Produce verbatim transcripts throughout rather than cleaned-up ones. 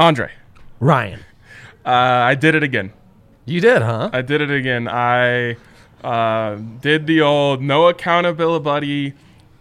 Andre. Ryan. Uh, I did it again. You did, huh? I did it again. I uh, did the old no accountability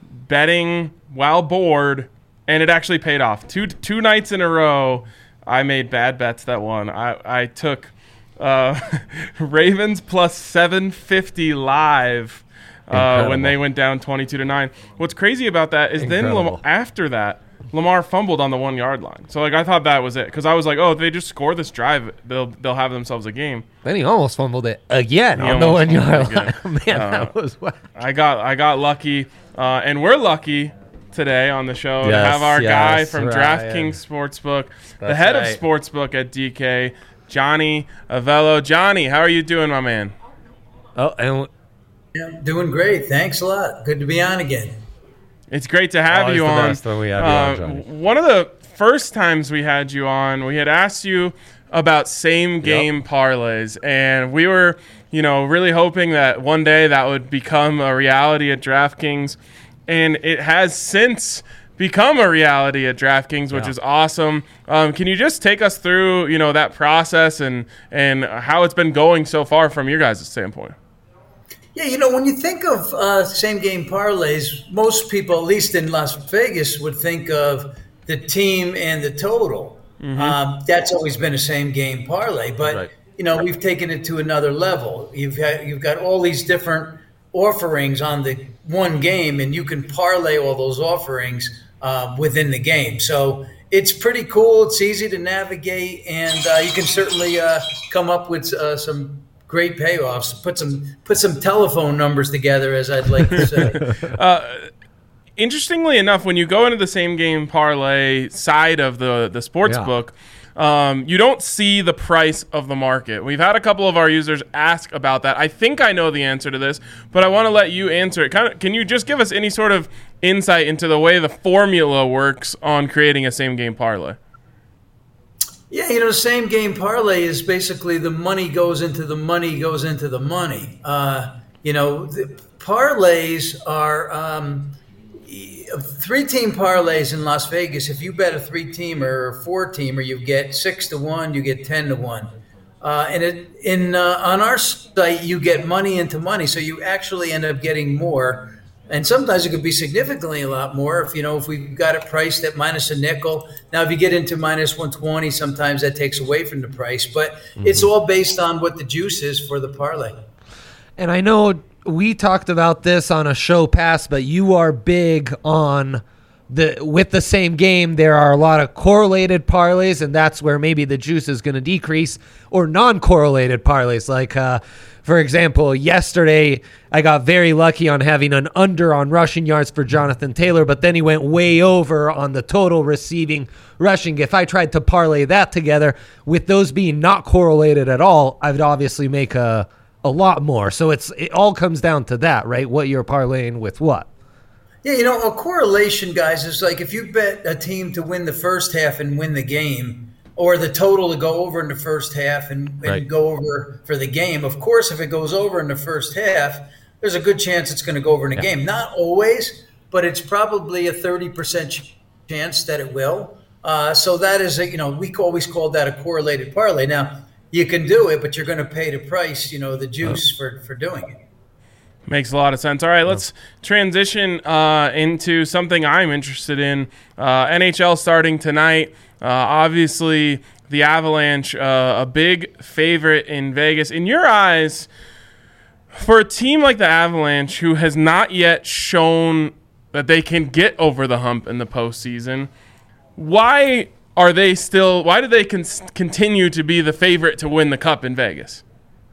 betting while bored, and it actually paid off. Two two nights in a row, I made bad bets that won. I, I took uh, Ravens plus seven fifty live uh, when they went down twenty-two to nine. What's crazy about that is Incredible. then Lam- after that, Lamar fumbled on the one-yard line. So, like, I thought that was it. Because I was like, oh, if they just score this drive, they'll they'll have themselves a game. Then he almost fumbled it again he on the one-yard line. Man, uh, that was wild. I got, I got lucky. Uh, and we're lucky today on the show yes, to have our yes, guy from Ryan. DraftKings Sportsbook, That's the head right. of Sportsbook at D K, Johnny Avello. Johnny, how are you doing, my man? Oh, and yeah, doing great. Thanks a lot. Good to be on again. It's great to have Always you the on. Best when we have uh, you on, Johnny. One of the first times we had you on, we had asked you about same game Yep. parlays, and we were, you know, really hoping that one day that would become a reality at DraftKings, and it has since become a reality at DraftKings, which yeah. is awesome. Um, can you just take us through, you know, that process and and how it's been going so far from your guys' standpoint? Yeah, you know, when you think of uh, same-game parlays, most people, at least in Las Vegas, would think of the team and the total. Mm-hmm. Um, that's always been a same-game parlay. But, right. you know, we've taken it to another level. You've had, you've got all these different offerings on the one game, and you can parlay all those offerings uh, within the game. So it's pretty cool. It's easy to navigate, and uh, you can certainly uh, come up with uh, some great payoffs. Put some put some telephone numbers together, as I'd like to say. uh, interestingly enough, when you go into the same game parlay side of the the sports yeah. book, um, you don't see the price of the market. We've had a couple of our users ask about that. I think I know the answer to this, but I want to let you answer it. Kind of, can you just give us any sort of insight into the way the formula works on creating a same game parlay? Yeah, you know, same game parlay is basically the money goes into the money goes into the money. Uh, you know, the parlays are um, three-team parlays in Las Vegas. If you bet a three-teamer or a four-teamer, you get six to one, you get ten to one. Uh, and it, in uh, on our site, you get money into money, so you actually end up getting more. And sometimes it could be significantly a lot more if, you know, if we've got it priced at minus a nickel. Now, if you get into minus one twenty, sometimes that takes away from the price. But mm-hmm. it's all based on what the juice is for the parlay. And I know we talked about this on a show past, but you are big on the with the same game. There are a lot of correlated parlays, and that's where maybe the juice is going to decrease, or non-correlated parlays like uh for example, yesterday I got very lucky on having an under on rushing yards for Jonathan Taylor, but then he went way over on the total receiving rushing. If I tried to parlay that together, with those being not correlated at all, I would obviously make a, a lot more. So it's it all comes down to that, right? What you're parlaying with what? Yeah, you know, a correlation, guys, is like if you bet a team to win the first half and win the game, or the total to go over in the first half and, and right. go over for the game. Of course, if it goes over in the first half, there's a good chance it's going to go over in the yeah. game. Not always, but it's probably a thirty percent chance that it will. Uh, so that is, a, you know, we always call that a correlated parlay. Now, you can do it, but you're going to pay the price, you know, the juice oh. for, for doing it. Makes a lot of sense. All right, let's transition uh, into something I'm interested in. Uh, N H L starting tonight. Uh, obviously, the Avalanche, uh, a big favorite in Vegas. In your eyes, for a team like the Avalanche, who has not yet shown that they can get over the hump in the postseason, why are they still? Why do they con- continue to be the favorite to win the Cup in Vegas?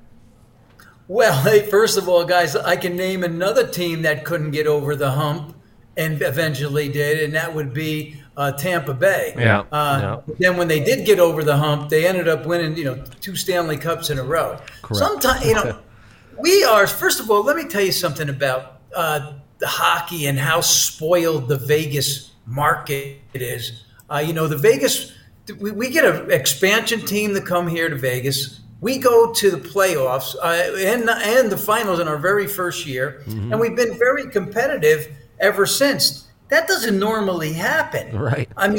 Well, hey, first of all, guys, I can name another team that couldn't get over the hump and eventually did, and that would be uh, Tampa Bay. Yeah. Uh, yeah. Then when they did get over the hump, they ended up winning, you know, two Stanley Cups in a row. Correct. Sometimes, you know, we are. First of all, let me tell you something about uh, the hockey and how spoiled the Vegas market is. Uh, you know, the Vegas, we, we get an expansion team to come here to Vegas. We go to the playoffs uh, and, and the finals in our very first year, mm-hmm. and we've been very competitive ever since. That doesn't normally happen. Right. I mean,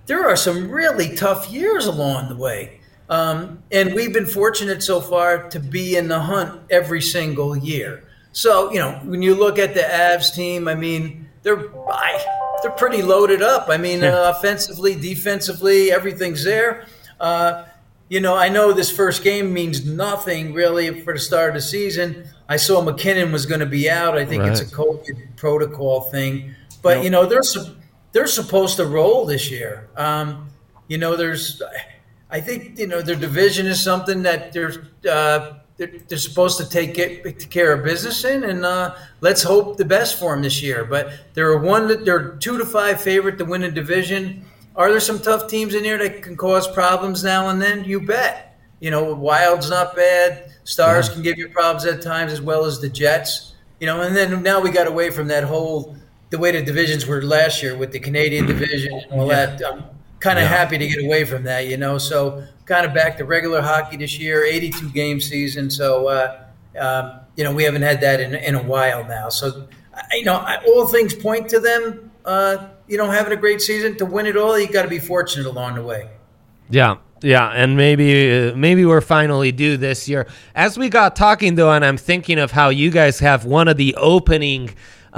there are some really tough years along the way. Um, and we've been fortunate so far to be in the hunt every single year. So, you know, when you look at the Avs team, I mean, they're they're pretty loaded up. I mean, uh, offensively, defensively, everything's there. Uh, you know, I know this first game means nothing really for the start of the season. I saw McKinnon was going to be out. I think Right. it's a COVID protocol thing. But, Yep. you know, they're su- they're supposed to roll this year. Um, you know, there's – I think, you know, their division is something that they're uh, they're, they're supposed to take get, care of business in, and uh, let's hope the best for them this year. But they're one, they're two to five favorite to win a division. Are there some tough teams in here that can cause problems now and then? You bet. You know, Wild's not bad. Stars can give you problems at times, as well as the Jets. You know, and then now we got away from that whole the way the divisions were last year with the Canadian division and all that. I'm kind of Yeah. happy to get away from that. You know, so kind of back to regular hockey this year, eighty-two game season. So uh, um, you know, we haven't had that in in a while now. So I- you know, I, all things point to them. Uh, you know, having a great season to win it all. You got to be fortunate along the way. Yeah, yeah, and maybe uh, maybe we're finally due this year. As we got talking though, and I'm thinking of how you guys have one of the opening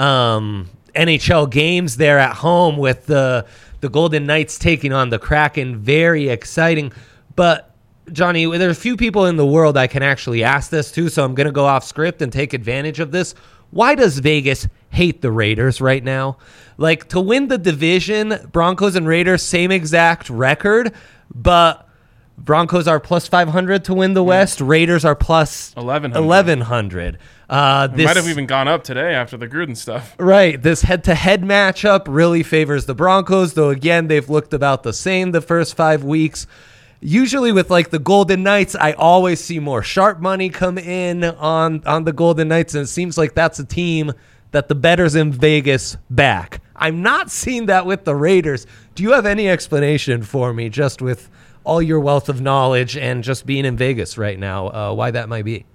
um, N H L games there at home with the the Golden Knights taking on the Kraken. Very exciting, but Johnny, there's a few people in the world I can actually ask this to, so I'm going to go off script and take advantage of this. Why does Vegas hate the Raiders right now? Like, to win the division, Broncos and Raiders, same exact record, but Broncos are plus five hundred to win the West. Raiders are plus eleven hundred. eleven hundred. Uh, It this, might have even gone up today after the Gruden stuff. Right. This head-to-head matchup really favors the Broncos, though, again, they've looked about the same the first five weeks. Usually with, like, the Golden Knights, I always see more sharp money come in on, on the Golden Knights, and it seems like that's a team that the bettors in Vegas back. I'm not seeing that with the Raiders. Do you have any explanation for me, just with all your wealth of knowledge and just being in Vegas right now, uh, why that might be?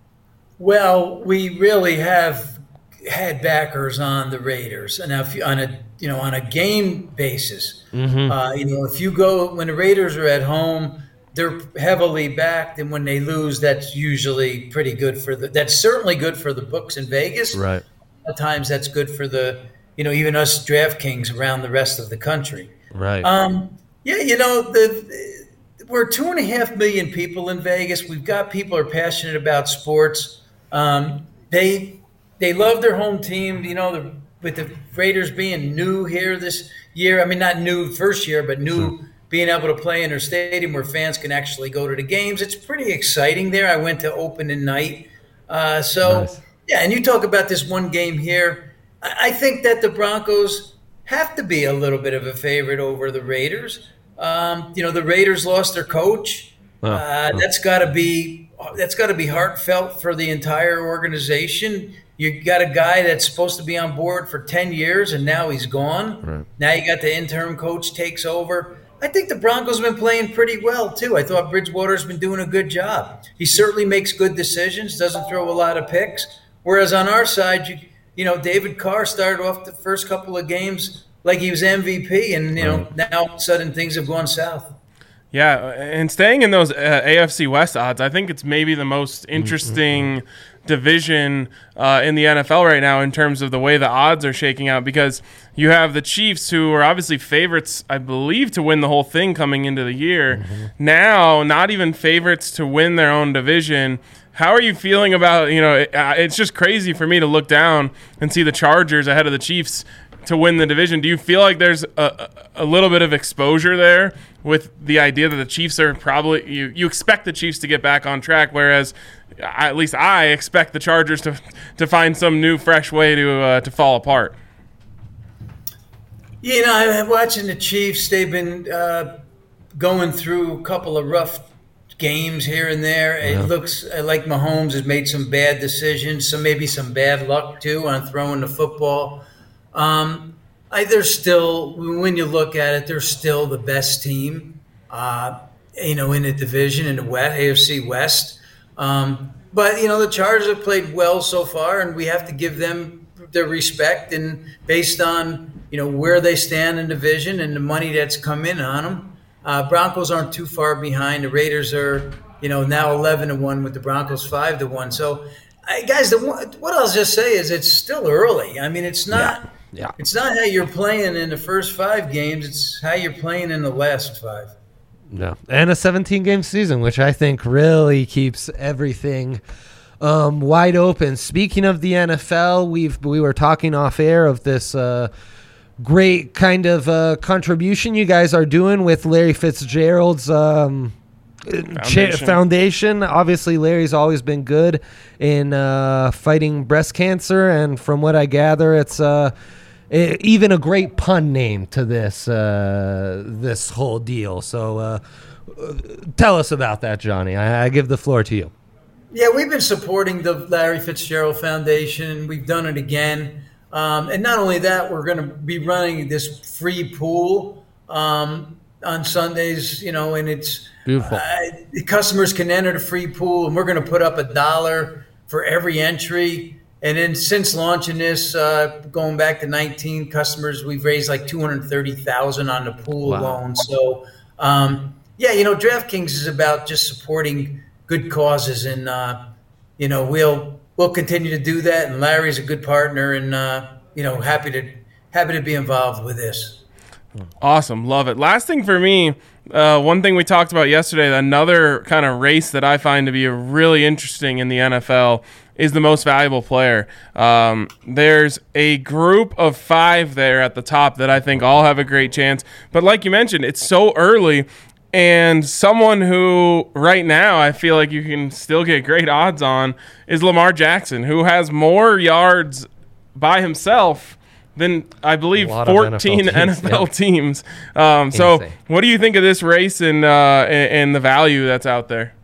Well, we really have had backers on the Raiders, and if you, on a you know on a game basis, Mm-hmm. uh, you know if you go when the Raiders are at home, they're heavily backed, and when they lose, that's usually pretty good for the. That's certainly good for the books in Vegas. Right. At times, that's good for the you know even us DraftKings around the rest of the country. Right. Um, yeah, you know the. We're two and a half million people in Vegas. We've got people who are passionate about sports. Um, they they love their home team. You know, the, with the Raiders being new here this year. I mean, not new first year, but new Sure. being able to play in their stadium where fans can actually go to the games. It's pretty exciting there. I went to opening night. Uh, so, Nice. yeah, and you talk about this one game here. I, I think that the Broncos have to be a little bit of a favorite over the Raiders. Um, you know, the Raiders lost their coach. Oh, Uh, oh. that's got to be that's got to be heartfelt for the entire organization. You got a guy that's supposed to be on board for ten years, and now he's gone. Right. Now you got the interim coach takes over. I think the Broncos have been playing pretty well, too. I thought Bridgewater's been doing a good job. He certainly makes good decisions, doesn't throw a lot of picks. Whereas on our side, you, you know, David Carr started off the first couple of games like he was M V P, and, you know, Right. now all of a sudden things have gone south. Yeah, and staying in those uh, A F C West odds, I think it's maybe the most interesting division uh, in the N F L right now in terms of the way the odds are shaking out, because you have the Chiefs, who are obviously favorites, I believe, to win the whole thing coming into the year. Now, not even favorites to win their own division. How are you feeling about, you know, it, uh, it's just crazy for me to look down and see the Chargers ahead of the Chiefs to win the division. Do you feel like there's a, a little bit of exposure there with the idea that the Chiefs are probably, you, you expect the Chiefs to get back on track, whereas I, at least I expect the Chargers to to find some new, fresh way to uh, to fall apart? You know, I'm watching the Chiefs. They've been uh, going through a couple of rough games here and there. It Yeah. looks like Mahomes has made some bad decisions, some maybe some bad luck too on throwing the football. Um, I, they're still, when you look at it, they're still the best team, uh, you know, in the division in the West, A F C West. Um, but you know, the Chargers have played well so far, and we have to give them their respect. And based on you know, where they stand in division and the money that's come in on them. Uh, Broncos aren't too far behind. The Raiders are, you know, now eleven to one with the Broncos five to one. So, I, guys, the what I'll just say is it's still early. I mean, it's not. Yeah. Yeah. It's not how you're playing in the first five games. It's how you're playing in the last five. No, and a seventeen-game season, which I think really keeps everything um, wide open. Speaking of the N F L, we've we were talking off air of this uh, great kind of uh, contribution you guys are doing with Larry Fitzgerald's um, Foundation. Cha- foundation. Obviously, Larry's always been good in uh, fighting breast cancer, and from what I gather, it's uh, it, even a great pun name to this uh, this whole deal. So, uh, tell us about that, Johnny. I, I give the floor to you. Yeah, we've been supporting the Larry Fitzgerald Foundation. We've done it again, um, and not only that, we're going to be running this free pool um, on Sundays. You know, and it's Beautiful. Uh, the customers can enter the free pool, and we're going to put up a dollar for every entry. And then since launching this, uh, going back to nineteen customers, we've raised like two hundred thirty thousand dollars on the pool Wow. alone. So, um, yeah, you know, DraftKings is about just supporting good causes, and uh, you know, we'll we'll continue to do that. And Larry's a good partner, and uh, you know, happy to happy to be involved with this. Awesome. Love it. Last thing for me, uh, one thing we talked about yesterday, another kind of race that I find to be really interesting in the N F L is the most valuable player. Um, there's a group of five there at the top that I think all have a great chance. But like you mentioned, it's so early. And someone who right now I feel like you can still get great odds on is Lamar Jackson, who has more yards by himself than I believe fourteen N F L teams. Um, so what do you think of this race and, uh, and, and the value that's out there?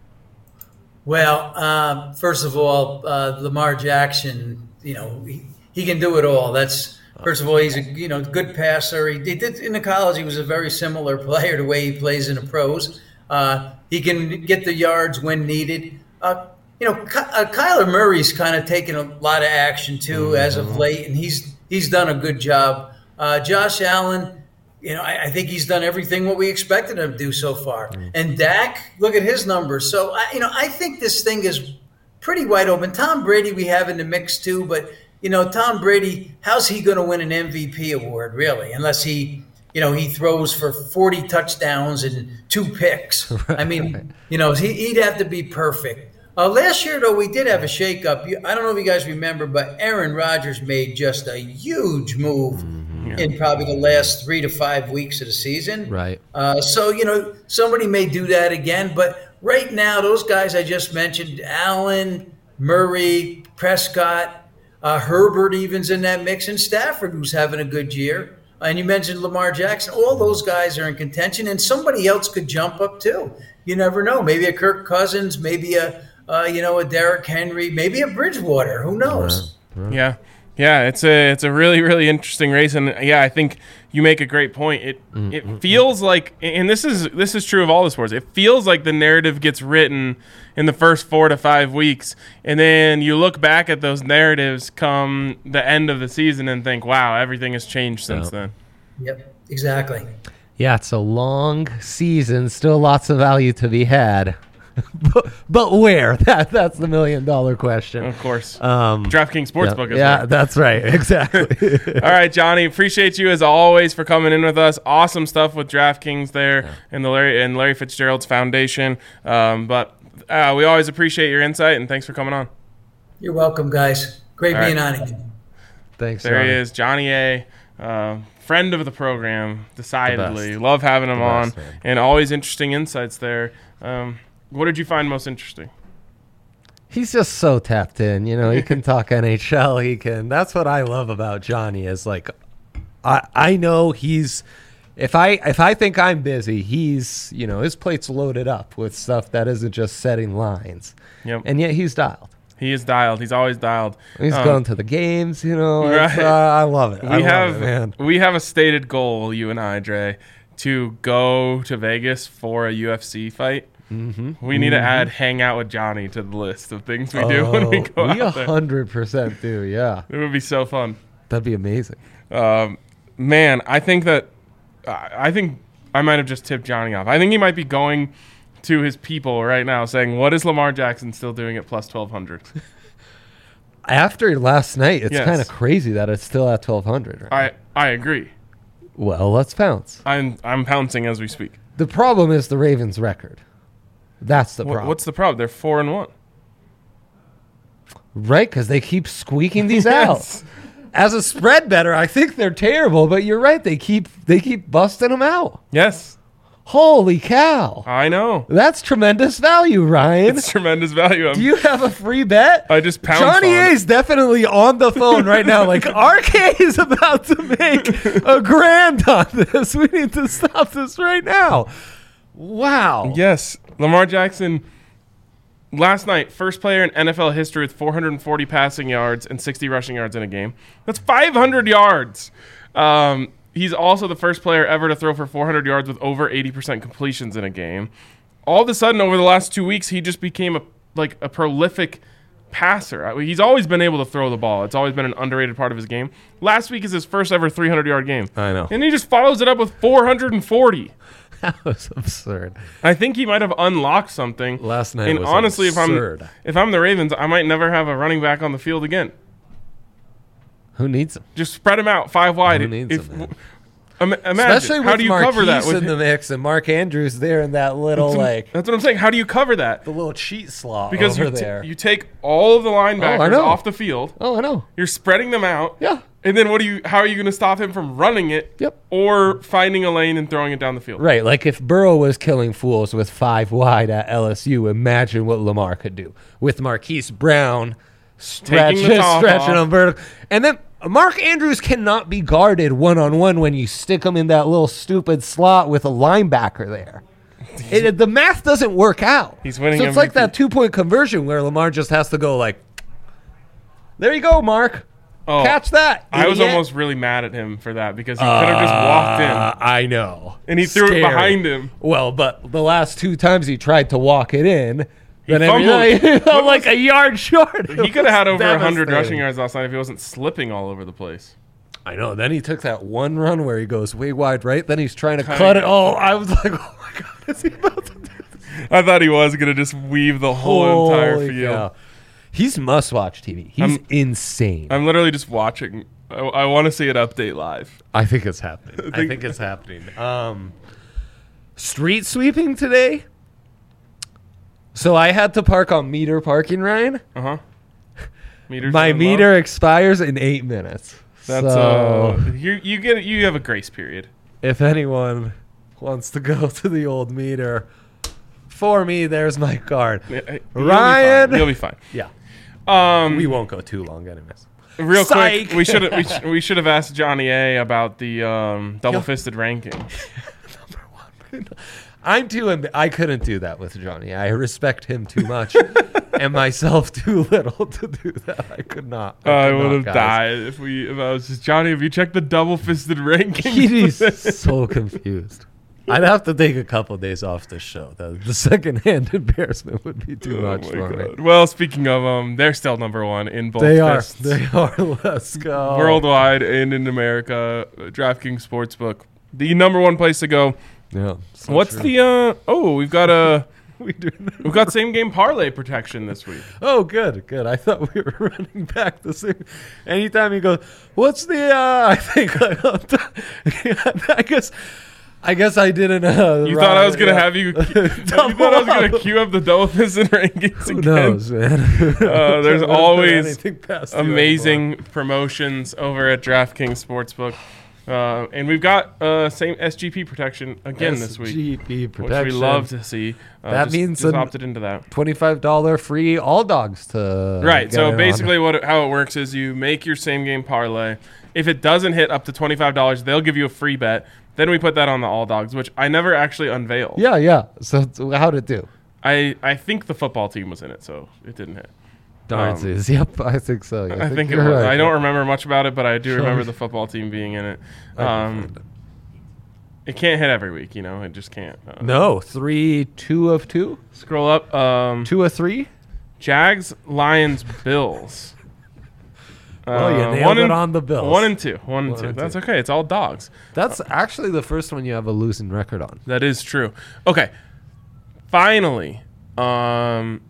Well, uh, first of all, uh, Lamar Jackson, you know, he, he can do it all. That's first of all, he's a you know good passer. He, he did in the college. He was a very similar player the way he plays in the pros. Uh, he can get the yards when needed. Uh, you know, Ky- uh, Kyler Murray's kind of taken a lot of action too mm-hmm. as of late, and he's he's done a good job. Uh, Josh Allen, you know, I, I think he's done everything what we expected him to do so far. Mm-hmm. And Dak, look at his numbers. So, I, you know, I think this thing is pretty wide open. Tom Brady we have in the mix too, but, you know, Tom Brady, how's he going to win an M V P award, really, unless he, you know, he throws for forty touchdowns and two picks. Right, I mean, right. you know, he, he'd have to be perfect. Uh, last year, though, we did have a shakeup. I don't know if you guys remember, but Aaron Rodgers made just a huge move mm-hmm. in probably the last three to five weeks of the season. Right. Uh, so, you know, somebody may do that again. But right now, those guys I just mentioned, Allen, Murray, Prescott, uh, Herbert even's in that mix, and Stafford, who's having a good year. And you mentioned Lamar Jackson. All those guys are in contention, and somebody else could jump up too. You never know. Maybe a Kirk Cousins, maybe a – Uh, you know, a Derrick Henry, maybe a Bridgewater. Who knows? Yeah, yeah. It's a it's a really really interesting race, and yeah, I think you make a great point. It mm-hmm. it feels like, and this is this is true of all the sports. It feels like the narrative gets written in the first four to five weeks, and then you look back at those narratives come the end of the season and think, wow, everything has changed since yep. then. Yep, exactly. Yeah, it's a long season. Still lots of value to be had. but, but where? That that's the million dollar question. Of course. Um, DraftKings Sportsbook yeah, is Yeah, right. that's right. Exactly. All right, Johnny. Appreciate you as always for coming in with us. Awesome stuff with DraftKings there yeah. and the Larry and Larry Fitzgerald's Foundation. Um, but uh, we always appreciate your insight, and thanks for coming on. You're welcome, guys. Great All being right. on again. Thanks. There Johnny. he is, Johnny A. Uh, friend of the program, decidedly. The Love having him the on, best, and always interesting insights there. Um, What did you find most interesting? He's just so tapped in. You know, he can talk N H L. He can. That's what I love about Johnny is like, I I know he's. If I if I think I'm busy, he's you know his plate's loaded up with stuff that isn't just setting lines. Yep. And yet he's dialed. He is dialed. He's always dialed. He's um, going to the games. You know, right. uh, I love it. We I love have it, man. we have a stated goal, you and I, Dre, to go to Vegas for a U F C fight. Mm-hmm. We need mm-hmm. to add hang out with Johnny to the list of things we do oh, when we go we out there. one hundred percent do, yeah. It would be so fun. That'd be amazing. Um, man, I think that uh, I think I might have just tipped Johnny off. I think he might be going to his people right now saying, what is Lamar Jackson still doing at plus twelve hundred? After last night, it's Yes. kind of crazy that it's still at twelve hundred. Right? I, I agree. Well, let's pounce. I'm I'm pouncing as we speak. The problem is the Ravens' record. That's the Wh- problem. What's the problem? They're four and one. Right, because they keep squeaking these Yes. out. As a spread better, I think they're terrible, but you're right. They keep they keep busting them out. Yes, Holy cow. I know. That's tremendous value, Ryan. It's tremendous value. I'm, Do you have a free bet? I just pounced Johnny on A it. is definitely on the phone right now. Like, R K is about to make a grand on this. We need to stop this right now. Wow. Yes, Lamar Jackson. Last night, first player in N F L history with four hundred forty passing yards and sixty rushing yards in a game. That's five hundred yards. Um, he's also the first player ever to throw for four hundred yards with over eighty percent completions in a game. All of a sudden, over the last two weeks, he just became a like a prolific passer. I mean, he's always been able to throw the ball. It's always been an underrated part of his game. Last week is his first ever three hundred yard game. I know. And he just follows it up with four hundred forty. That was absurd. I think he might have unlocked something. Last night and was honestly, absurd. if I'm if I'm the Ravens, I might never have a running back on the field again. Who needs him? Just spread him out five wide. Who needs If, him, man? Im- imagine Especially how with do you Marquise cover that? With in the mix and Mark Andrews there in that little, like, that's what I'm saying. How do you cover that? the little cheat slot Because over you t- there. you take all of the linebackers know. off the field. oh, I know. You're spreading them out. Yeah. And then what do you? How are you going to stop him from running it? Yep. Or finding a lane and throwing it down the field? Right, like if Burrow was killing fools with five wide at L S U, imagine what Lamar could do with Marquise Brown stretch, Taking the top stretching off. on vertical. And then Mark Andrews cannot be guarded one-on-one when you stick him in that little stupid slot with a linebacker there. It, the math doesn't work out. He's winning So it's M V P. like that two-point conversion where Lamar just has to go like, there you go, Mark. Oh, Catch that. I was idiot." almost really mad at him for that because he could have just walked in. Uh, I know. And he threw it Scary. behind him. Well, but the last two times he tried to walk it in, He then every fumbled. he felt What like was- a yard short. He could have had over one hundred Devastating. rushing yards last night if he wasn't slipping all over the place. I know. Then he took that one run where he goes way wide right. Then he's trying to Kinda. cut it. Oh, I was like, oh my God, is he about to do this? I thought he was going to just weave the whole entire Holy field. cow. He's must-watch T V. He's I'm- insane. I'm literally just watching. I, I want to see it update live. I think it's happening. I think it's happening. Um, street sweeping today. So I had to park on meter parking, Ryan. Uh huh. Meters My are low. meter expires in eight minutes. That's so uh. You you get you have a grace period. if anyone wants to go to the old meter, for me, there's my card. Yeah, you'll be Ryan! fine. You'll be fine. Yeah, Um, we won't go too long, anyways. real Psych! quick, we should we, sh- we should have asked Johnny A about the um, double fisted ranking. I'm too. Amb- I couldn't do that with Johnny. I respect him too much, and myself too little to do that. I could not. Uh, I could would not, have guys. died if we if I was just Johnny. Have you checked the double fisted ranking? He's so confused. I'd have to take a couple days off this show. The, the secondhand embarrassment would be too Oh much my for me. God. Well, speaking of um, they're still number one in both They are. fists. They are. Let's go. Worldwide and in America. uh, DraftKings Sportsbook, the number one place to go. Yeah. so What's true. the uh? Oh, we've got a we doing that? we've got same game parlay protection this week. Oh, good, good. I thought we were running back the same. Anytime you go, what's the? Uh, I think I guess. I guess I didn't. Uh, You thought I was gonna yeah. have you? you thought I was gonna queue up the double fisted rankings Who again? knows, man? Uh, there's Wouldn't put always anything past you anymore. Amazing promotions over at DraftKings Sportsbook, uh, and we've got uh, same S G P protection again this week, S G P which protection. we love to see. Uh, That just, means just an- opted into that. twenty-five dollars free all dogs to Right. get So in on. basically, what it- how it works is you make your same game parlay. If it doesn't hit up to twenty-five dollars, they'll give you a free bet. Then we put that on the all dogs, which I never actually unveiled. Yeah, yeah. So, so how'd it do? I, I think the football team was in it, so it didn't hit. Darnsies. Yep, I think so. Yeah, I think it you're was. right. I don't remember much about it, but I do Sure. remember the football team being in it. I can Um, find it. it can't hit every week, you know. It just can't. Uh, No, three, two of two, Scroll up. Um, two of three. Jags, Lions, Bills. Well, you Uh, nailed one it and, on the Bills. One and two. One and One two. and That's two. okay. It's all dogs. That's actually the first one you have a losing record on. That is true. Okay. Finally, um,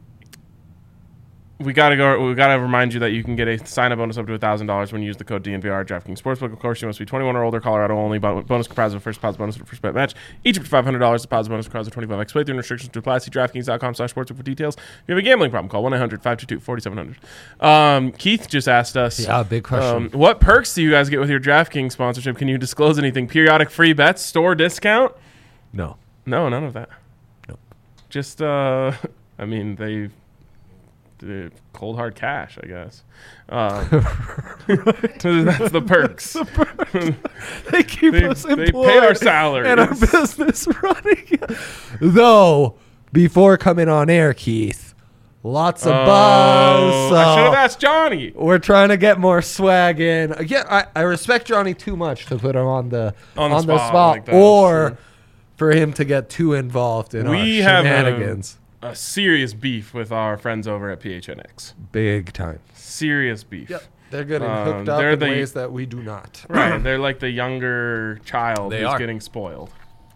we gotta go. We gotta remind you that you can get a sign-up bonus up to a thousand dollars when you use the code D N V R at DraftKings Sportsbook. Of course, you must be twenty-one or older. Colorado only. Bo- bonus comprised of first deposit bonus for first bet match. Each up to five hundred dollars. Deposit bonus comprised of twenty-five x playthrough and restrictions to apply. See DraftKings dot com slash sportsbook for details. If you have a gambling problem, call one eight hundred five two two four seven zero zero. Um, Keith just asked us. Yeah, big question. Um, what perks do you guys get with your DraftKings sponsorship? Can you disclose anything? Periodic free bets, store discount? No. No, none of that. Nope. Just, uh, I mean, they, they cold hard cash, I guess. Um, that's the perks. They keep They- us they employed pay our salaries. and our business running. Though, before coming on air, Keith, lots of buzz. Oh, I should have so asked Johnny. we're trying to get more swag in. Again, I, I respect Johnny too much to put him on the On on the the spot spot, like that, or sure. for him to get too involved in We our have a, shenanigans. a serious beef with our friends over at P H N X. Big time. Serious beef. They're getting Um, hooked up they're in the- ways that we do not. Right. They're like the younger child They who's are. getting spoiled.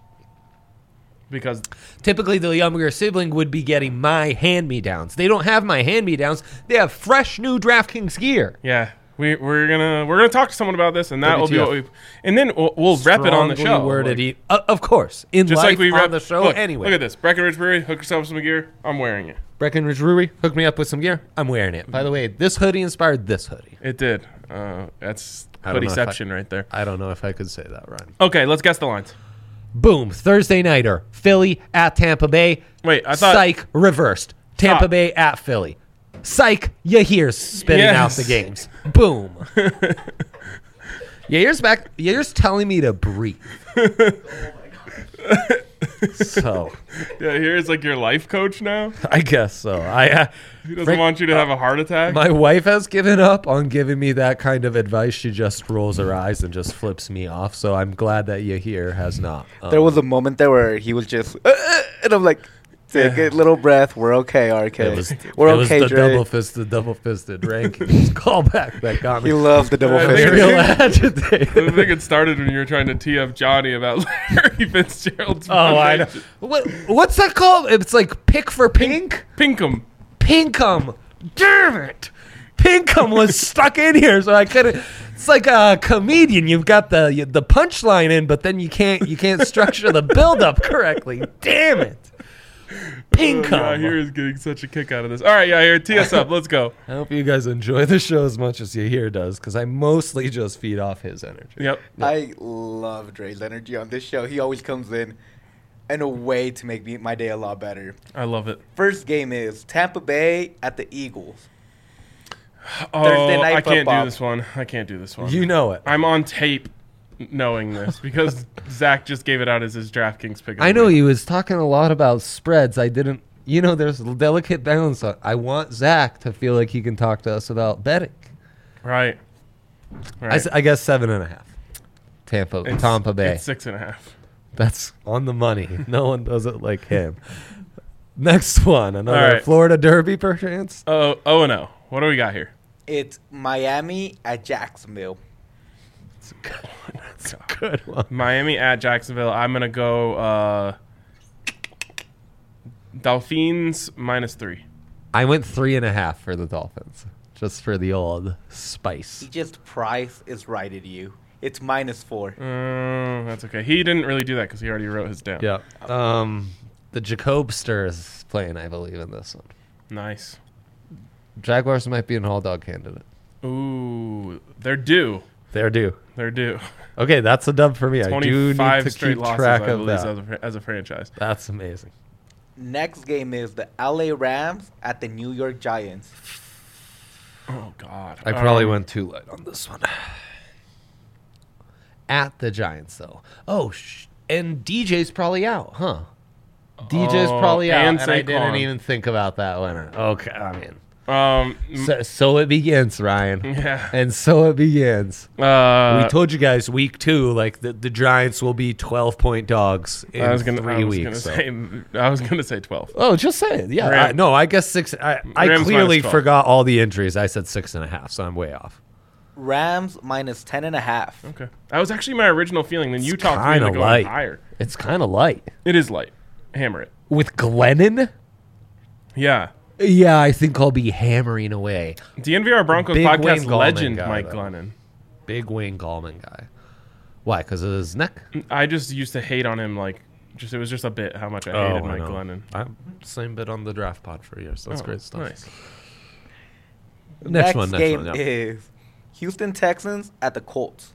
Because Typically, the younger sibling would be getting my hand-me-downs. They don't have my hand-me-downs. They have fresh new DraftKings gear. yeah, we we're gonna we're gonna talk to someone about this, and that will be W T F. what we and then we'll, we'll rep it on the Strongly show. Worded like- e- uh, of course, in just life like we on rep the show. Look, anyway, look at this Breckenridge Brewery. Hook yourself some gear. I'm wearing it. Breckenridge Brewery hooked me up with some gear. I'm wearing it. By the way, this hoodie inspired this hoodie. It did. Uh, that's I don't know if I- hoodieception right there. I don't know if I could say that, Ryan. Okay, let's guess the lines. Boom. Thursday nighter. Philly at Tampa Bay. Wait, I thought Psych reversed. Tampa Stop. Bay at Philly. Psych. Yahir's spitting out Yes. the games. Boom. Yahir's back. Yahir's telling me to breathe. So, yeah, here's like your life coach now. I guess so. I uh, He doesn't Frank- want you to have a heart attack. My wife has given up on giving me that kind of advice. She just rolls her eyes and just flips me off. So I'm glad that Yahir has not. Um, There was a moment there where he was just, uh, uh, and I'm like, take a little breath. We're okay, R K. It was, We're it was okay, the Dre. double fisted, double fisted rankings callback that got me. He loved the double I fist. think- real I agitated. think it started when you were trying to tee up Johnny about Larry Fitzgerald's. Oh, I know. What, what's that called? It's like pick for pink? Pinkham. Pinkham. Damn it. Pinkham was stuck in here, so I couldn't. It's like a comedian. You've got the the punchline in, but then you can't you can't structure the build up correctly. Damn it. Pinkham. Oh, yeah, here is getting such a kick out of this. All right, yeah, here, tee us up. Let's go. I hope you guys enjoy the show as much as Yahir does, because I mostly just feed off his energy. Yep. I love Dre's energy on this show. He always comes in in a way to make me, my day a lot better. I love it. First game is Tampa Bay at the Eagles. Oh, Thursday night I can't football. do this one. I can't do this one. You know it. I'm on tape knowing this because Zach just gave it out as his DraftKings pick. of the I know week. he was talking a lot about spreads. I didn't, you know, there's a delicate balance. On, I want Zach to feel like he can talk to us about betting. Right. I, Right. s- I guess seven and a half. Tampa, It's- Tampa Bay. It's six and a half. That's on the money. No one does it like him. Next one, another All right. Florida Derby, perchance. Oh, oh and oh. What do we got here? It's Miami at Jacksonville. It's a good one. That's a good one. Miami at Jacksonville. I'm gonna go uh, Dolphins minus three. I went three and a half for the Dolphins, just for the old spice. He just price is right at you. It's minus four. Uh, that's okay. He didn't really do that because he already wrote his down. Yeah. Um, the Jacobster is playing, I believe, in this one. Nice. Jaguars might be an all dog candidate. Ooh, they're due. They're due. They're due. Okay, that's a dub for me. I do need twenty-five to straight keep losses, track I of believe, that. as a, as a franchise. That's amazing. Next game is the L A Rams at the New York Giants. Oh God. I probably Um, went too light on this one. At the Giants, though. Oh, sh- and D J's probably out, huh? D J's Oh, probably out, and and, I didn't Saquon. even think about that winner. Okay, I mean, Um. so, so it begins, Ryan. Yeah. And so it begins. Uh, we told you guys week two, like the, the Giants will be twelve point dogs in I was gonna. three I was weeks. gonna so. say. I was gonna say twelve. Oh, just saying. Yeah. Ram- I, no, I guess six. I, I Rams clearly minus twelve. forgot all the injuries. I said six and a half, so I'm way off. Rams minus ten and a half. Okay. That was actually my original feeling. Then you It's talked me into kinda going light. higher. It's kind of light. It is light. Hammer it. With Glennon? Yeah. Yeah, I think I'll be hammering away. D N V R Broncos Big Wayne podcast Gallman legend guy, Mike though. Glennon. Big Wayne Gallman guy. Why? Because of his neck? I just used to hate on him. Like, just it was just a bit how much I hated Mike Glennon. I'm same bit on the draft pod for years. That's Oh, great stuff. Nice. Next, one, next game one. Yeah. is Houston Texans at the Colts.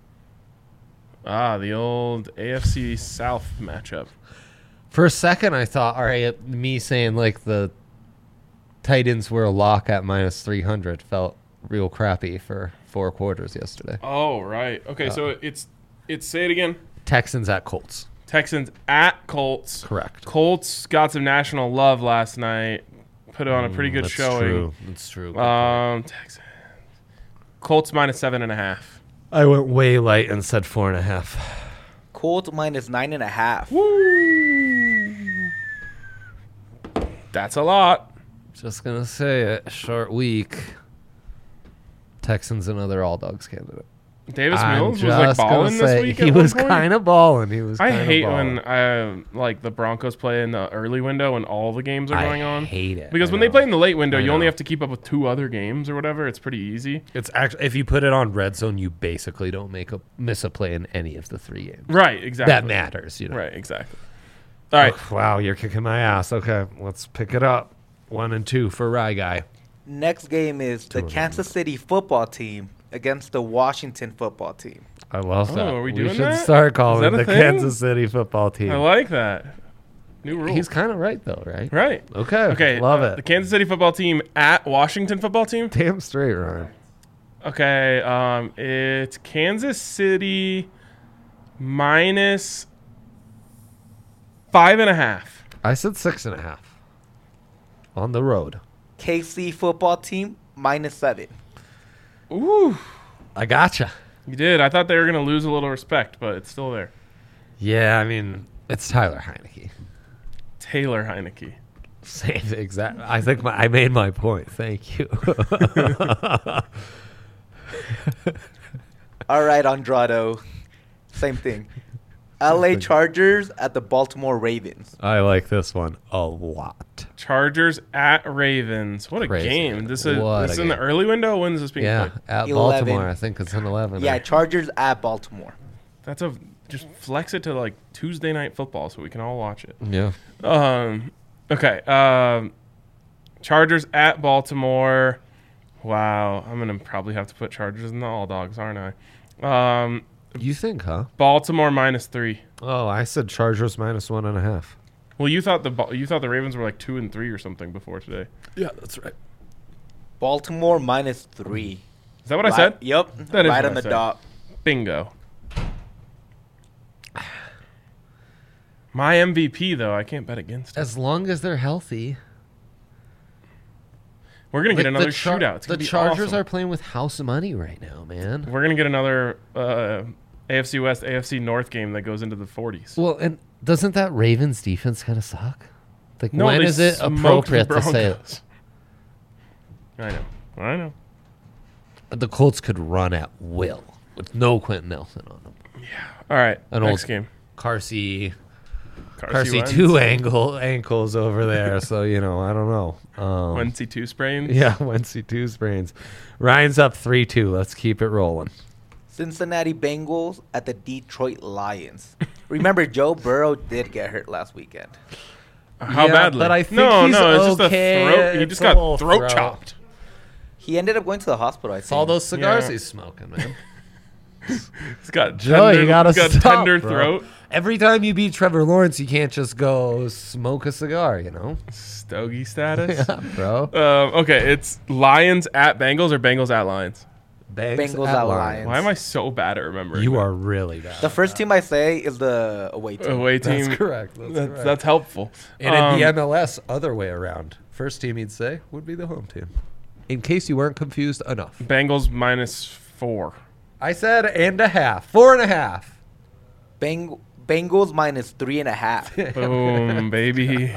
Ah, the old A F C South matchup. For a second, I thought, all right, me saying like the Titans were a lock at minus three hundred felt real crappy for four quarters yesterday. Oh, right. Okay, so it's it's say it again. Texans at Colts. Texans at Colts. Correct. Colts got some national love last night. Put on a pretty good That's showing. True. That's true. Good Um, Texans. Colts minus seven and a half. I went way light and said four and a half. Colts minus nine and a half. Woo! That's a lot. Just gonna say it. Short week. Texans another all dogs candidate. Davis I'm Mills was like just gonna balling this say, week. He at was one point. kind of balling. He was. I kinda hate balling. when uh, like the Broncos play in the early window when all the games are I going on. hate it. Because I when they know. play in the late window, I you only know. have to keep up with two other games or whatever. It's pretty easy. It's actually if you put it on red zone, you basically don't make a miss a play in any of the three games. Right, exactly. That matters, you know. Right, exactly. All right. Oh, wow, you're kicking my ass. Okay, let's pick it up. One and two for Rye Guy. Next game is the Two of Kansas City football team against the Washington football team. I love Oh, that. are we doing should that? start Is calling that it a the thing? Kansas City football team. I like that. New rule. He's kind of right though, right? right. Okay. Okay. Love uh, it. The Kansas City football team at Washington football team. Damn straight, Ryan. Okay. Um, it's Kansas City minus five and a half. I said six and a half. On the road. K C football team minus seven. Ooh. I gotcha. You did. I thought they were going to lose a little respect, but it's still there. Yeah, I mean, it's Tyler Heineke. Taylor Heineke. Same exact. I think my, I made my point. Thank you. All right, Andrado. Same thing. L A Chargers at the Baltimore Ravens. I like this one a lot. Chargers at Ravens. What a Crazy. game. This is What this a is in the game. early window. When is this being Yeah, played? at eleven. Baltimore, I think it's an eleven. Yeah, Chargers at Baltimore. That's a just flex it to like Tuesday night football so we can all watch it. yeah. Um okay. Um Chargers at Baltimore. Wow. I'm gonna probably have to put Chargers in the all dogs, aren't I? Um You think, huh? Baltimore minus three. Oh, I said Chargers minus one and a half. Well, you thought the Ba- you thought the Ravens were like two and three or something before today. Yeah, that's right. Baltimore minus three. Is that what I Right- said? Yep. That is right what on I the said. dot. Bingo. My M V P though, I can't bet against it. As long as they're healthy. We're gonna get Like, another the Char- shootout. It's the gonna be Chargers awesome. are playing with house money right now, man. We're gonna get another uh, A F C West, A F C North game that goes into the forties. Well, and doesn't that Ravens defense kind of suck? Like, No, when they is it smoked appropriate the to say Broncos. I know. I know. the Colts could run at will with no Quentin Nelson on them? All right. An next old- game. Carsey, Carsey Carsey Wentz. two ankle ankles over there, so you know I don't know. Um, Wentzy two sprains. yeah, Wentzy two sprains. Ryan's up three two. Let's keep it rolling. Cincinnati Bengals at the Detroit Lions. Remember, Joe Burrow did get hurt last weekend. How Yeah, badly? but I think no, he's no, it's just okay. a throat. He It's just a got little throat, throat. chopped. He ended up going to the hospital, I It's all think. those cigars Yeah. he's smoking, man. He's got Joe, tender, you gotta he's got stop, tender bro. throat. Every time you beat Trevor Lawrence, you can't just go smoke a cigar, you know? Stogie status. Yeah, bro. Um, okay, it's Lions at Bengals or Bengals at Lions. Bengals at Lions. Why am I so bad at remembering? You that? are really bad. The first team I say is the away team. away team. That's correct. That's, That's, correct. that's helpful. and in the Um, M L S, other way around. First team you'd say would be the home team. In case you weren't confused enough. Bengals minus four. I said and a half. Four and a half. Beng- Bengals minus three and a half. Boom, baby.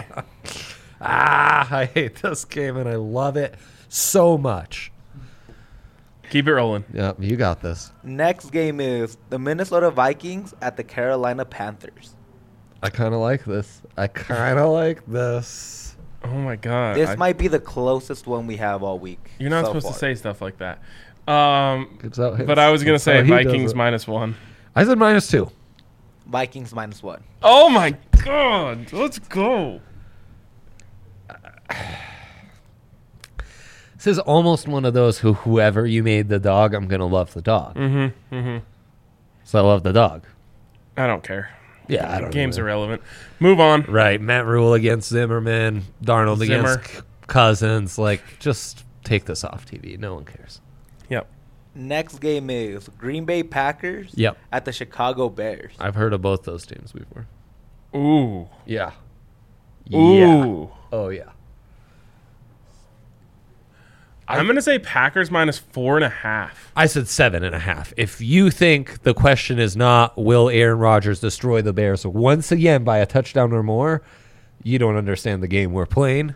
Ah, I hate this game and I love it so much. Keep it rolling. Yep, you got this. Next game is the Minnesota Vikings at the Carolina Panthers. I kind of like this. I kind of like this. Oh my god. This I- might be the closest one we have all week. You're not so supposed far. to say stuff like that. Um, It's how- but I was gonna it's say how he does Vikings it. minus one. I said minus two. Vikings minus one. Oh my god. Let's go. This is almost one of those who whoever you made the dog, I'm gonna love the dog. Mm-hmm. Mm-hmm. So I love the dog. I don't care. Yeah, I don't. Game's know. irrelevant. Move on. Right, Matt Rule against Zimmerman, Darnold Zimmer. against C- Cousins. Like, just take this off T V. No one cares. Yep. Next game is Green Bay Packers Yep, at the Chicago Bears. I've heard of both those teams before. Ooh. Yeah. Ooh. Yeah. Oh yeah. I'm gonna say Packers minus four and a half. I said seven and a half. If you think the question is not will Aaron Rodgers destroy the Bears once again by a touchdown or more, you don't understand the game we're playing.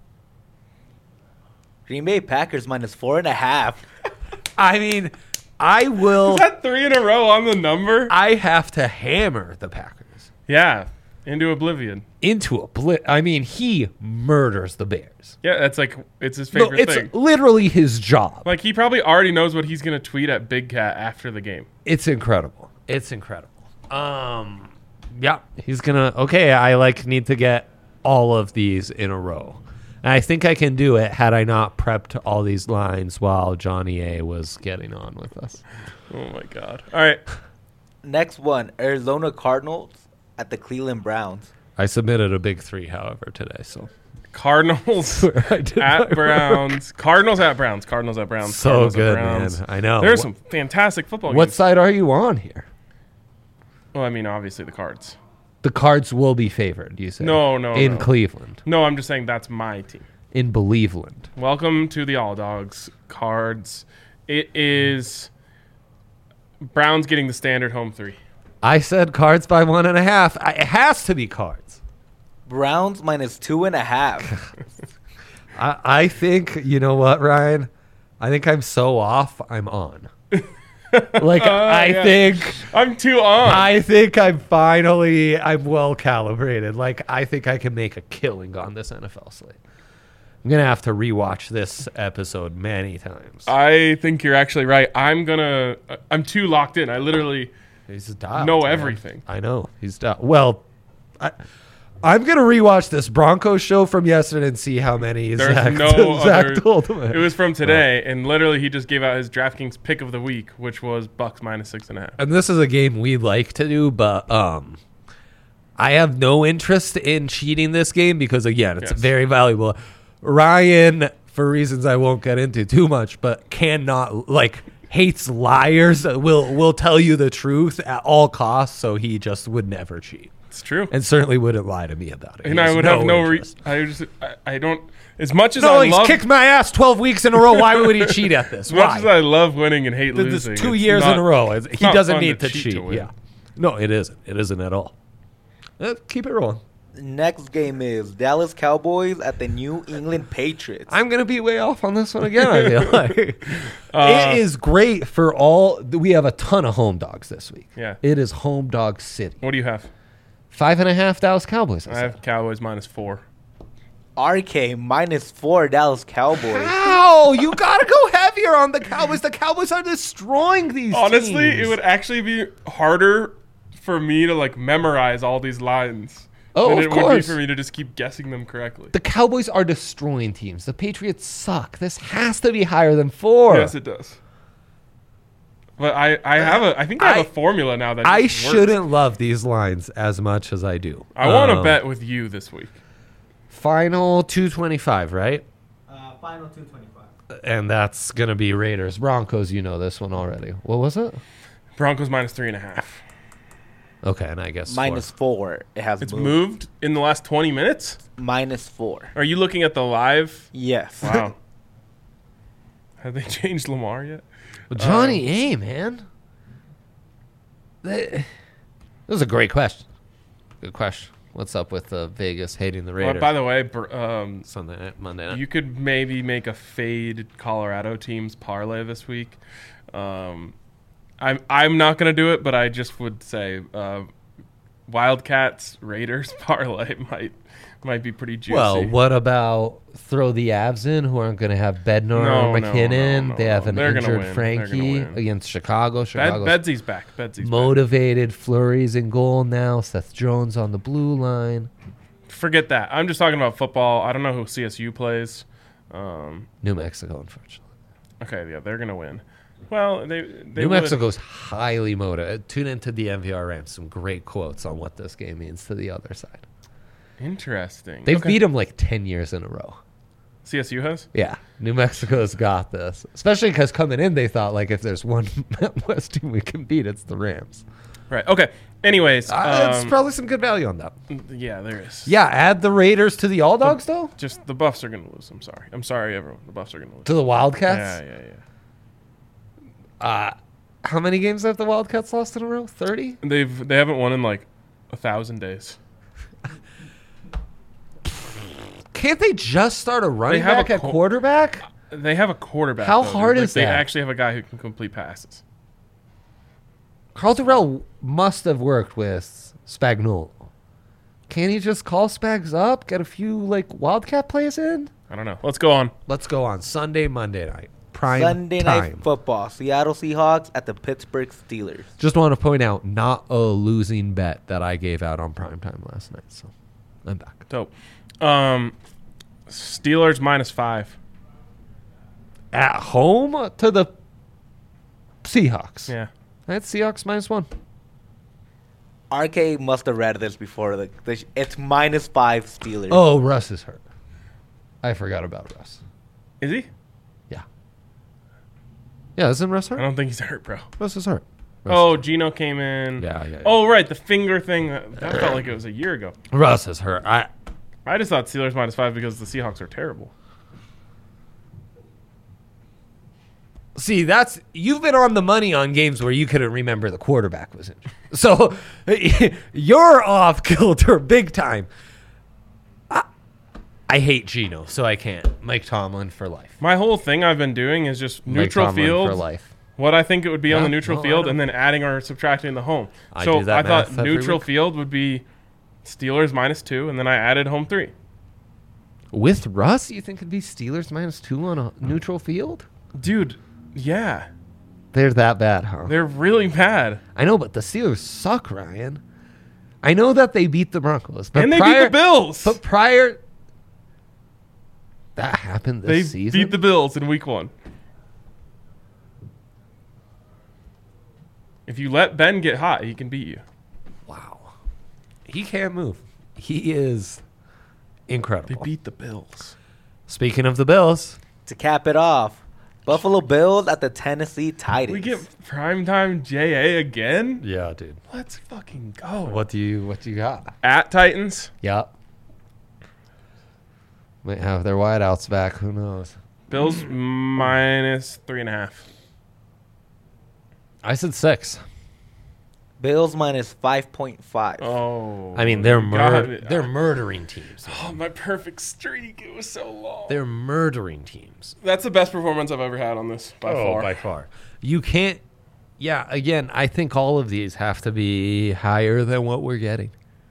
Green Bay Packers minus four and a half. I mean, I will. Is that three in a row on the number? I have to hammer the Packers Yeah. Into oblivion. into a blit. I mean, he murders the Bears. Yeah, that's like it's his No, favorite it's thing. literally his job. Like he probably already knows what he's gonna tweet at Big Cat after the game. It's incredible. It's incredible. Um, yeah, he's gonna. Okay, I like need to get all of these in a row. And I think I can do it had I not prepped all these lines while Johnny A was getting on with us. Oh my god. All right. Next one, Arizona Cardinals at the Cleveland Browns. I submitted a big three, however, today. So Cardinals I did my at work. Browns. Cardinals at Browns. Cardinals at Browns. So Cardinals at good, Browns. man. I know. There's Wh- some fantastic football What games. side are you on here? Well, I mean, obviously the Cards. The Cards will be favored. You say? No, no, In no. Cleveland, No, I'm just saying that's my team. in Believeland. Welcome to the All Dogs Cards. It is Browns getting the standard home three. I said Cards by one and a half. I, it has to be Cards. Browns minus two and a half. I, I think, you know what, Ryan? I think I'm so off, I'm on. Like, I yeah. think, I'm too on. I think I'm finally, I'm well calibrated. Like, I think I can make a killing on this N F L slate. I'm going to have to rewatch this episode many times. I think you're actually right. I'm gonna. I'm too locked in. I literally He's dialed, know man. everything. I know. He's dialed. Well, I, I'm going to rewatch this Broncos show from yesterday and see how many There's Zach, no Zach other. told him. It was from today, and literally he just gave out his DraftKings pick of the week, which was Bucks minus six and a half. And this is a game we like to do, but um, I have no interest in cheating this game because, again, it's Yes. very valuable. Ryan, for reasons I won't get into too much, but cannot, like, hates liars, will will tell you the truth at all costs, so he just would never cheat. It's true. And certainly wouldn't lie to me about it. And He I has would have no. Re- interest. I just. I, I don't. As much as No, I he's love. kicked my ass twelve weeks in a row. Why would he cheat at this? as much Why? as I love winning and hate This losing, is two it's years not- in a row. It's- it's He not doesn't fun need to cheat cheat. to win. Yeah. No, it isn't. It isn't at all. Uh, keep it rolling. Next game is Dallas Cowboys at the New England Patriots. I'm gonna be way off on this one again. I feel like Uh, it is great for all. We have a ton of home dogs this week. Yeah. It is home dog city. What do you have? Five and a half Dallas Cowboys. I I said. have Cowboys minus four. R K minus four Dallas Cowboys. How? You gotta go heavier on the Cowboys. The Cowboys are destroying these. Honestly, teams. it would actually be harder for me to like memorize all these lines Oh, than of it would be course. for me to just keep guessing them correctly. The Cowboys are destroying teams. The Patriots suck. This has to be higher than four. Yes, it does. But I, I have a I think I have I- a formula now that I just works. shouldn't love these lines as much as I do. I want to Um, bet with you this week. Final two twenty-five, right? Uh, final two twenty-five. And that's going to be Raiders. Broncos, you know this one already. What was it? Broncos minus three and a half. Okay, and I guess Minus four. four. It has It's moved. moved in the last twenty minutes. Minus four. Are you looking at the live? Yes. Wow. Have they changed Lamar yet? Well, Johnny A, man. That, that was a great question. Good question. What's up with uh, Vegas hating the Well, Raiders? by the way, br- um, Sunday night, Monday night. you could maybe make a fade Colorado teams parlay this week. Um, I'm I'm not gonna do it, but I just would say uh, Wildcats Raiders parlay might might be pretty juicy. Well, what about throw the Avs in, who aren't going to have Bednar No, or no, McKinnon? no, they have no. an They're gonna injured win. They're Frankie gonna win. against Chicago. Bed- Chicago's Bedsy's back. Bedsy's back. motivated. Flurry's in goal now. Seth Jones on the blue line. Forget that. I'm just talking about football. I don't know who C S U plays. Um, New Mexico, unfortunately. okay, yeah, they're gonna win. Well, they, they New would- Mexico's highly motivated. Tune into the M V R Rams. Some great quotes on what this game means to the other side. Interesting. They've Okay. beat them like ten years in a row. C S U has. Yeah, New Mexico's got this. Especially because coming in, they thought, like, if there's one West team we can beat, it's the Rams. Right. Okay. Anyways, Uh, it's um, probably some good value on that. yeah, there is. Yeah, add the Raiders to the All Dogs, though? Just the Buffs are gonna lose. I'm sorry. I'm sorry, everyone. The Buffs are gonna lose. To the Wildcats? Yeah, yeah, yeah. Uh, how many games have the Wildcats lost in a row? thirty? They've they haven't won in like a thousand days. Can't they just start a running have a back at co- quarterback? They have a quarterback. How though, dude. hard Like, is they that? actually have a guy who can complete passes. Carl Durrell must have worked with Spagnuolo. Can't he just call Spags up, get a few like Wildcat plays in? I don't know. Let's go on. Let's go on Sunday, Monday night. Prime Sunday time. night football. Seattle Seahawks at the Pittsburgh Steelers. Just want to point out, not a losing bet that I gave out on primetime last night. So I'm back. Dope. Um, Steelers minus five. At home to the Seahawks. Yeah. That's Seahawks minus one. R K must have read this before. The, the, it's minus five Steelers. Oh, Russ is hurt. I forgot about Russ. Is he? Yeah. Yeah, isn't Russ I hurt? don't think he's hurt, bro. Russ is hurt. Russ Oh, is Gino came in. Yeah, yeah, yeah. Oh, right. The finger thing. That, that felt like it was a year ago. hurt. Russ is hurt. I I just thought Steelers minus five because the Seahawks are terrible. See, that's you've been on the money on games where you couldn't remember the quarterback was injured. So you're off kilter big time. I, I hate Geno, so I can't. Mike Tomlin for life. My whole thing I've been doing is just Mike neutral Tomlin field. for life. What I think it would be on Yeah, the neutral no, I field know. and then adding or subtracting the home. I so do that I thought math every neutral week. field would be Steelers minus two, and then I added home three. With Russ, you think it'd be Steelers minus two on a neutral field? Dude, yeah. They're that bad, huh? They're really bad. I know, but the Steelers suck, Ryan. I know that they beat the Broncos, but and they prior, beat the Bills. But prior, that happened this They season. beat the Bills in week one. If you let Ben get hot, he can beat you. Wow, he can't move. He is They incredible. beat the Bills. Speaking of the Bills, To cap it off, Buffalo Bills at the Tennessee Titans. We get primetime J A again? yeah, dude. Let's fucking go. What do you what do you got? At Titans, Yep. Might have their wideouts back. Who knows? Bills minus three and a half. I said six. Bills minus five point five. Oh. I mean, they're God. mur- they're murdering teams. Oh, my perfect streak. It was so long. They're murdering teams. That's the best performance I've ever had on this by far. Oh, by far. You can't. Yeah, again, I think all of these have to be higher than what we're getting.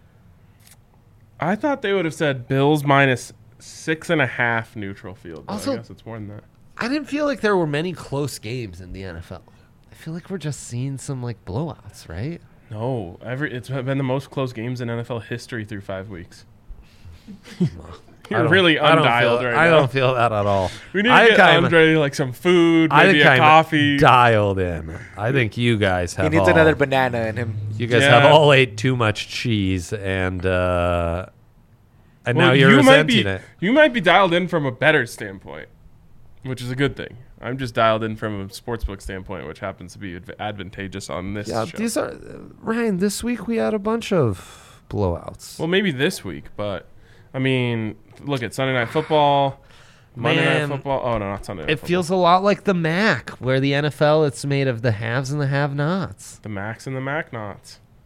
I thought they would have said Bills minus six and a half neutral field. But Also- I guess it's more than that. I didn't feel like there were many close games in the N F L. I feel like we're just seeing some like blowouts, right? No, every it's been the most close games in N F L history through five weeks. I You're don't- really I don't undialed feel- right I now. don't feel that at all. We need to I get kinda- Andre like some food, I maybe think a I'm coffee. dialed in. I think you guys have He needs all, another banana in him. You guys Yeah. have all ate too much cheese, and uh, and Well, now you're you might resenting be it. you might be dialed in from a better standpoint, which is a good thing. I'm just dialed in from a sportsbook standpoint, which happens to be adv- advantageous on this Yeah, show. these are Ryan. This week we had a bunch of blowouts. Well, maybe this week, but I mean, look at Sunday Night Football, Monday Man, Night Football. Oh no, not Sunday Night it Football. feels a lot like the M A C, where the N F L it's made of the haves and the have-nots. the Max and the Mac Knots.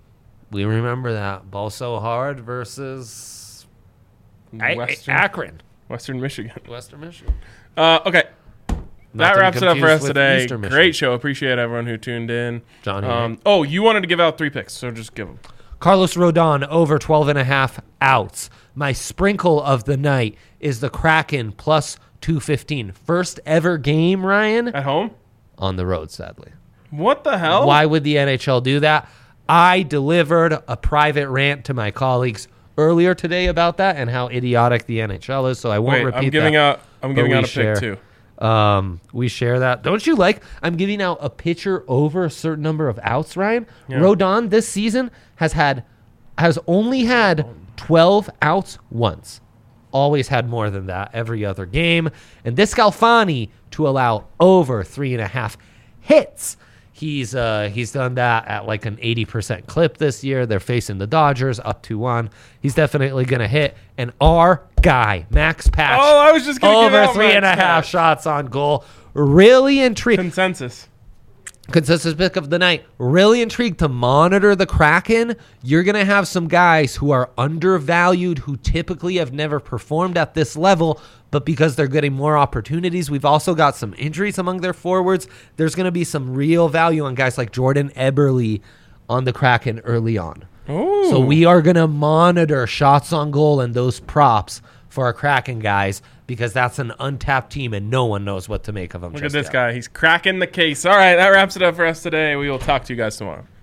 We remember that. Ball so hard versus I- Western, Akron, Western Michigan. Western Michigan. Uh, okay. Not That to be wraps it up for confused us with today. Eastern Michigan. Great show. Appreciate everyone who tuned in. Johnny. Um, oh, you wanted to give out three picks, so just give them. Carlos Rodon over twelve and a half outs. My sprinkle of the night is the Kraken plus two fifteen. First ever game, Ryan, At home? on the road, sadly. What the hell? Why would the N H L do that? I delivered a private rant to my colleagues earlier today about that and how idiotic the N H L is, so I won't Wait, repeat I'm giving that. out. I'm but giving we out a share. pick too. Um, we share that. Don't you like? I'm giving out a pitcher over a certain number of outs. Ryan Yeah. Rodon this season has had has only had twelve outs once. Always had more than that every other game. And this Galfani to allow over three and a half hits. He's uh he's done that at like an eighty percent clip this year. They're facing the Dodgers up two one. He's definitely gonna hit. And our guy Max Patch. Oh, I was just gonna give over out three and a Max half Patch. shots on goal. Really intrigued. Consensus. Consensus pick of the night. Really intrigued to monitor the Kraken. You're going to have some guys who are undervalued, who typically have never performed at this level, but because they're getting more opportunities, we've also got some injuries among their forwards. There's going to be some real value on guys like Jordan Eberle on the Kraken early on. Ooh. So we are going to monitor shots on goal and those props for our Kraken guys because that's an untapped team and no one knows what to make of them. Look just at this yet. guy. He's cracking the case. All right, that wraps it up for us today. We will talk to you guys tomorrow.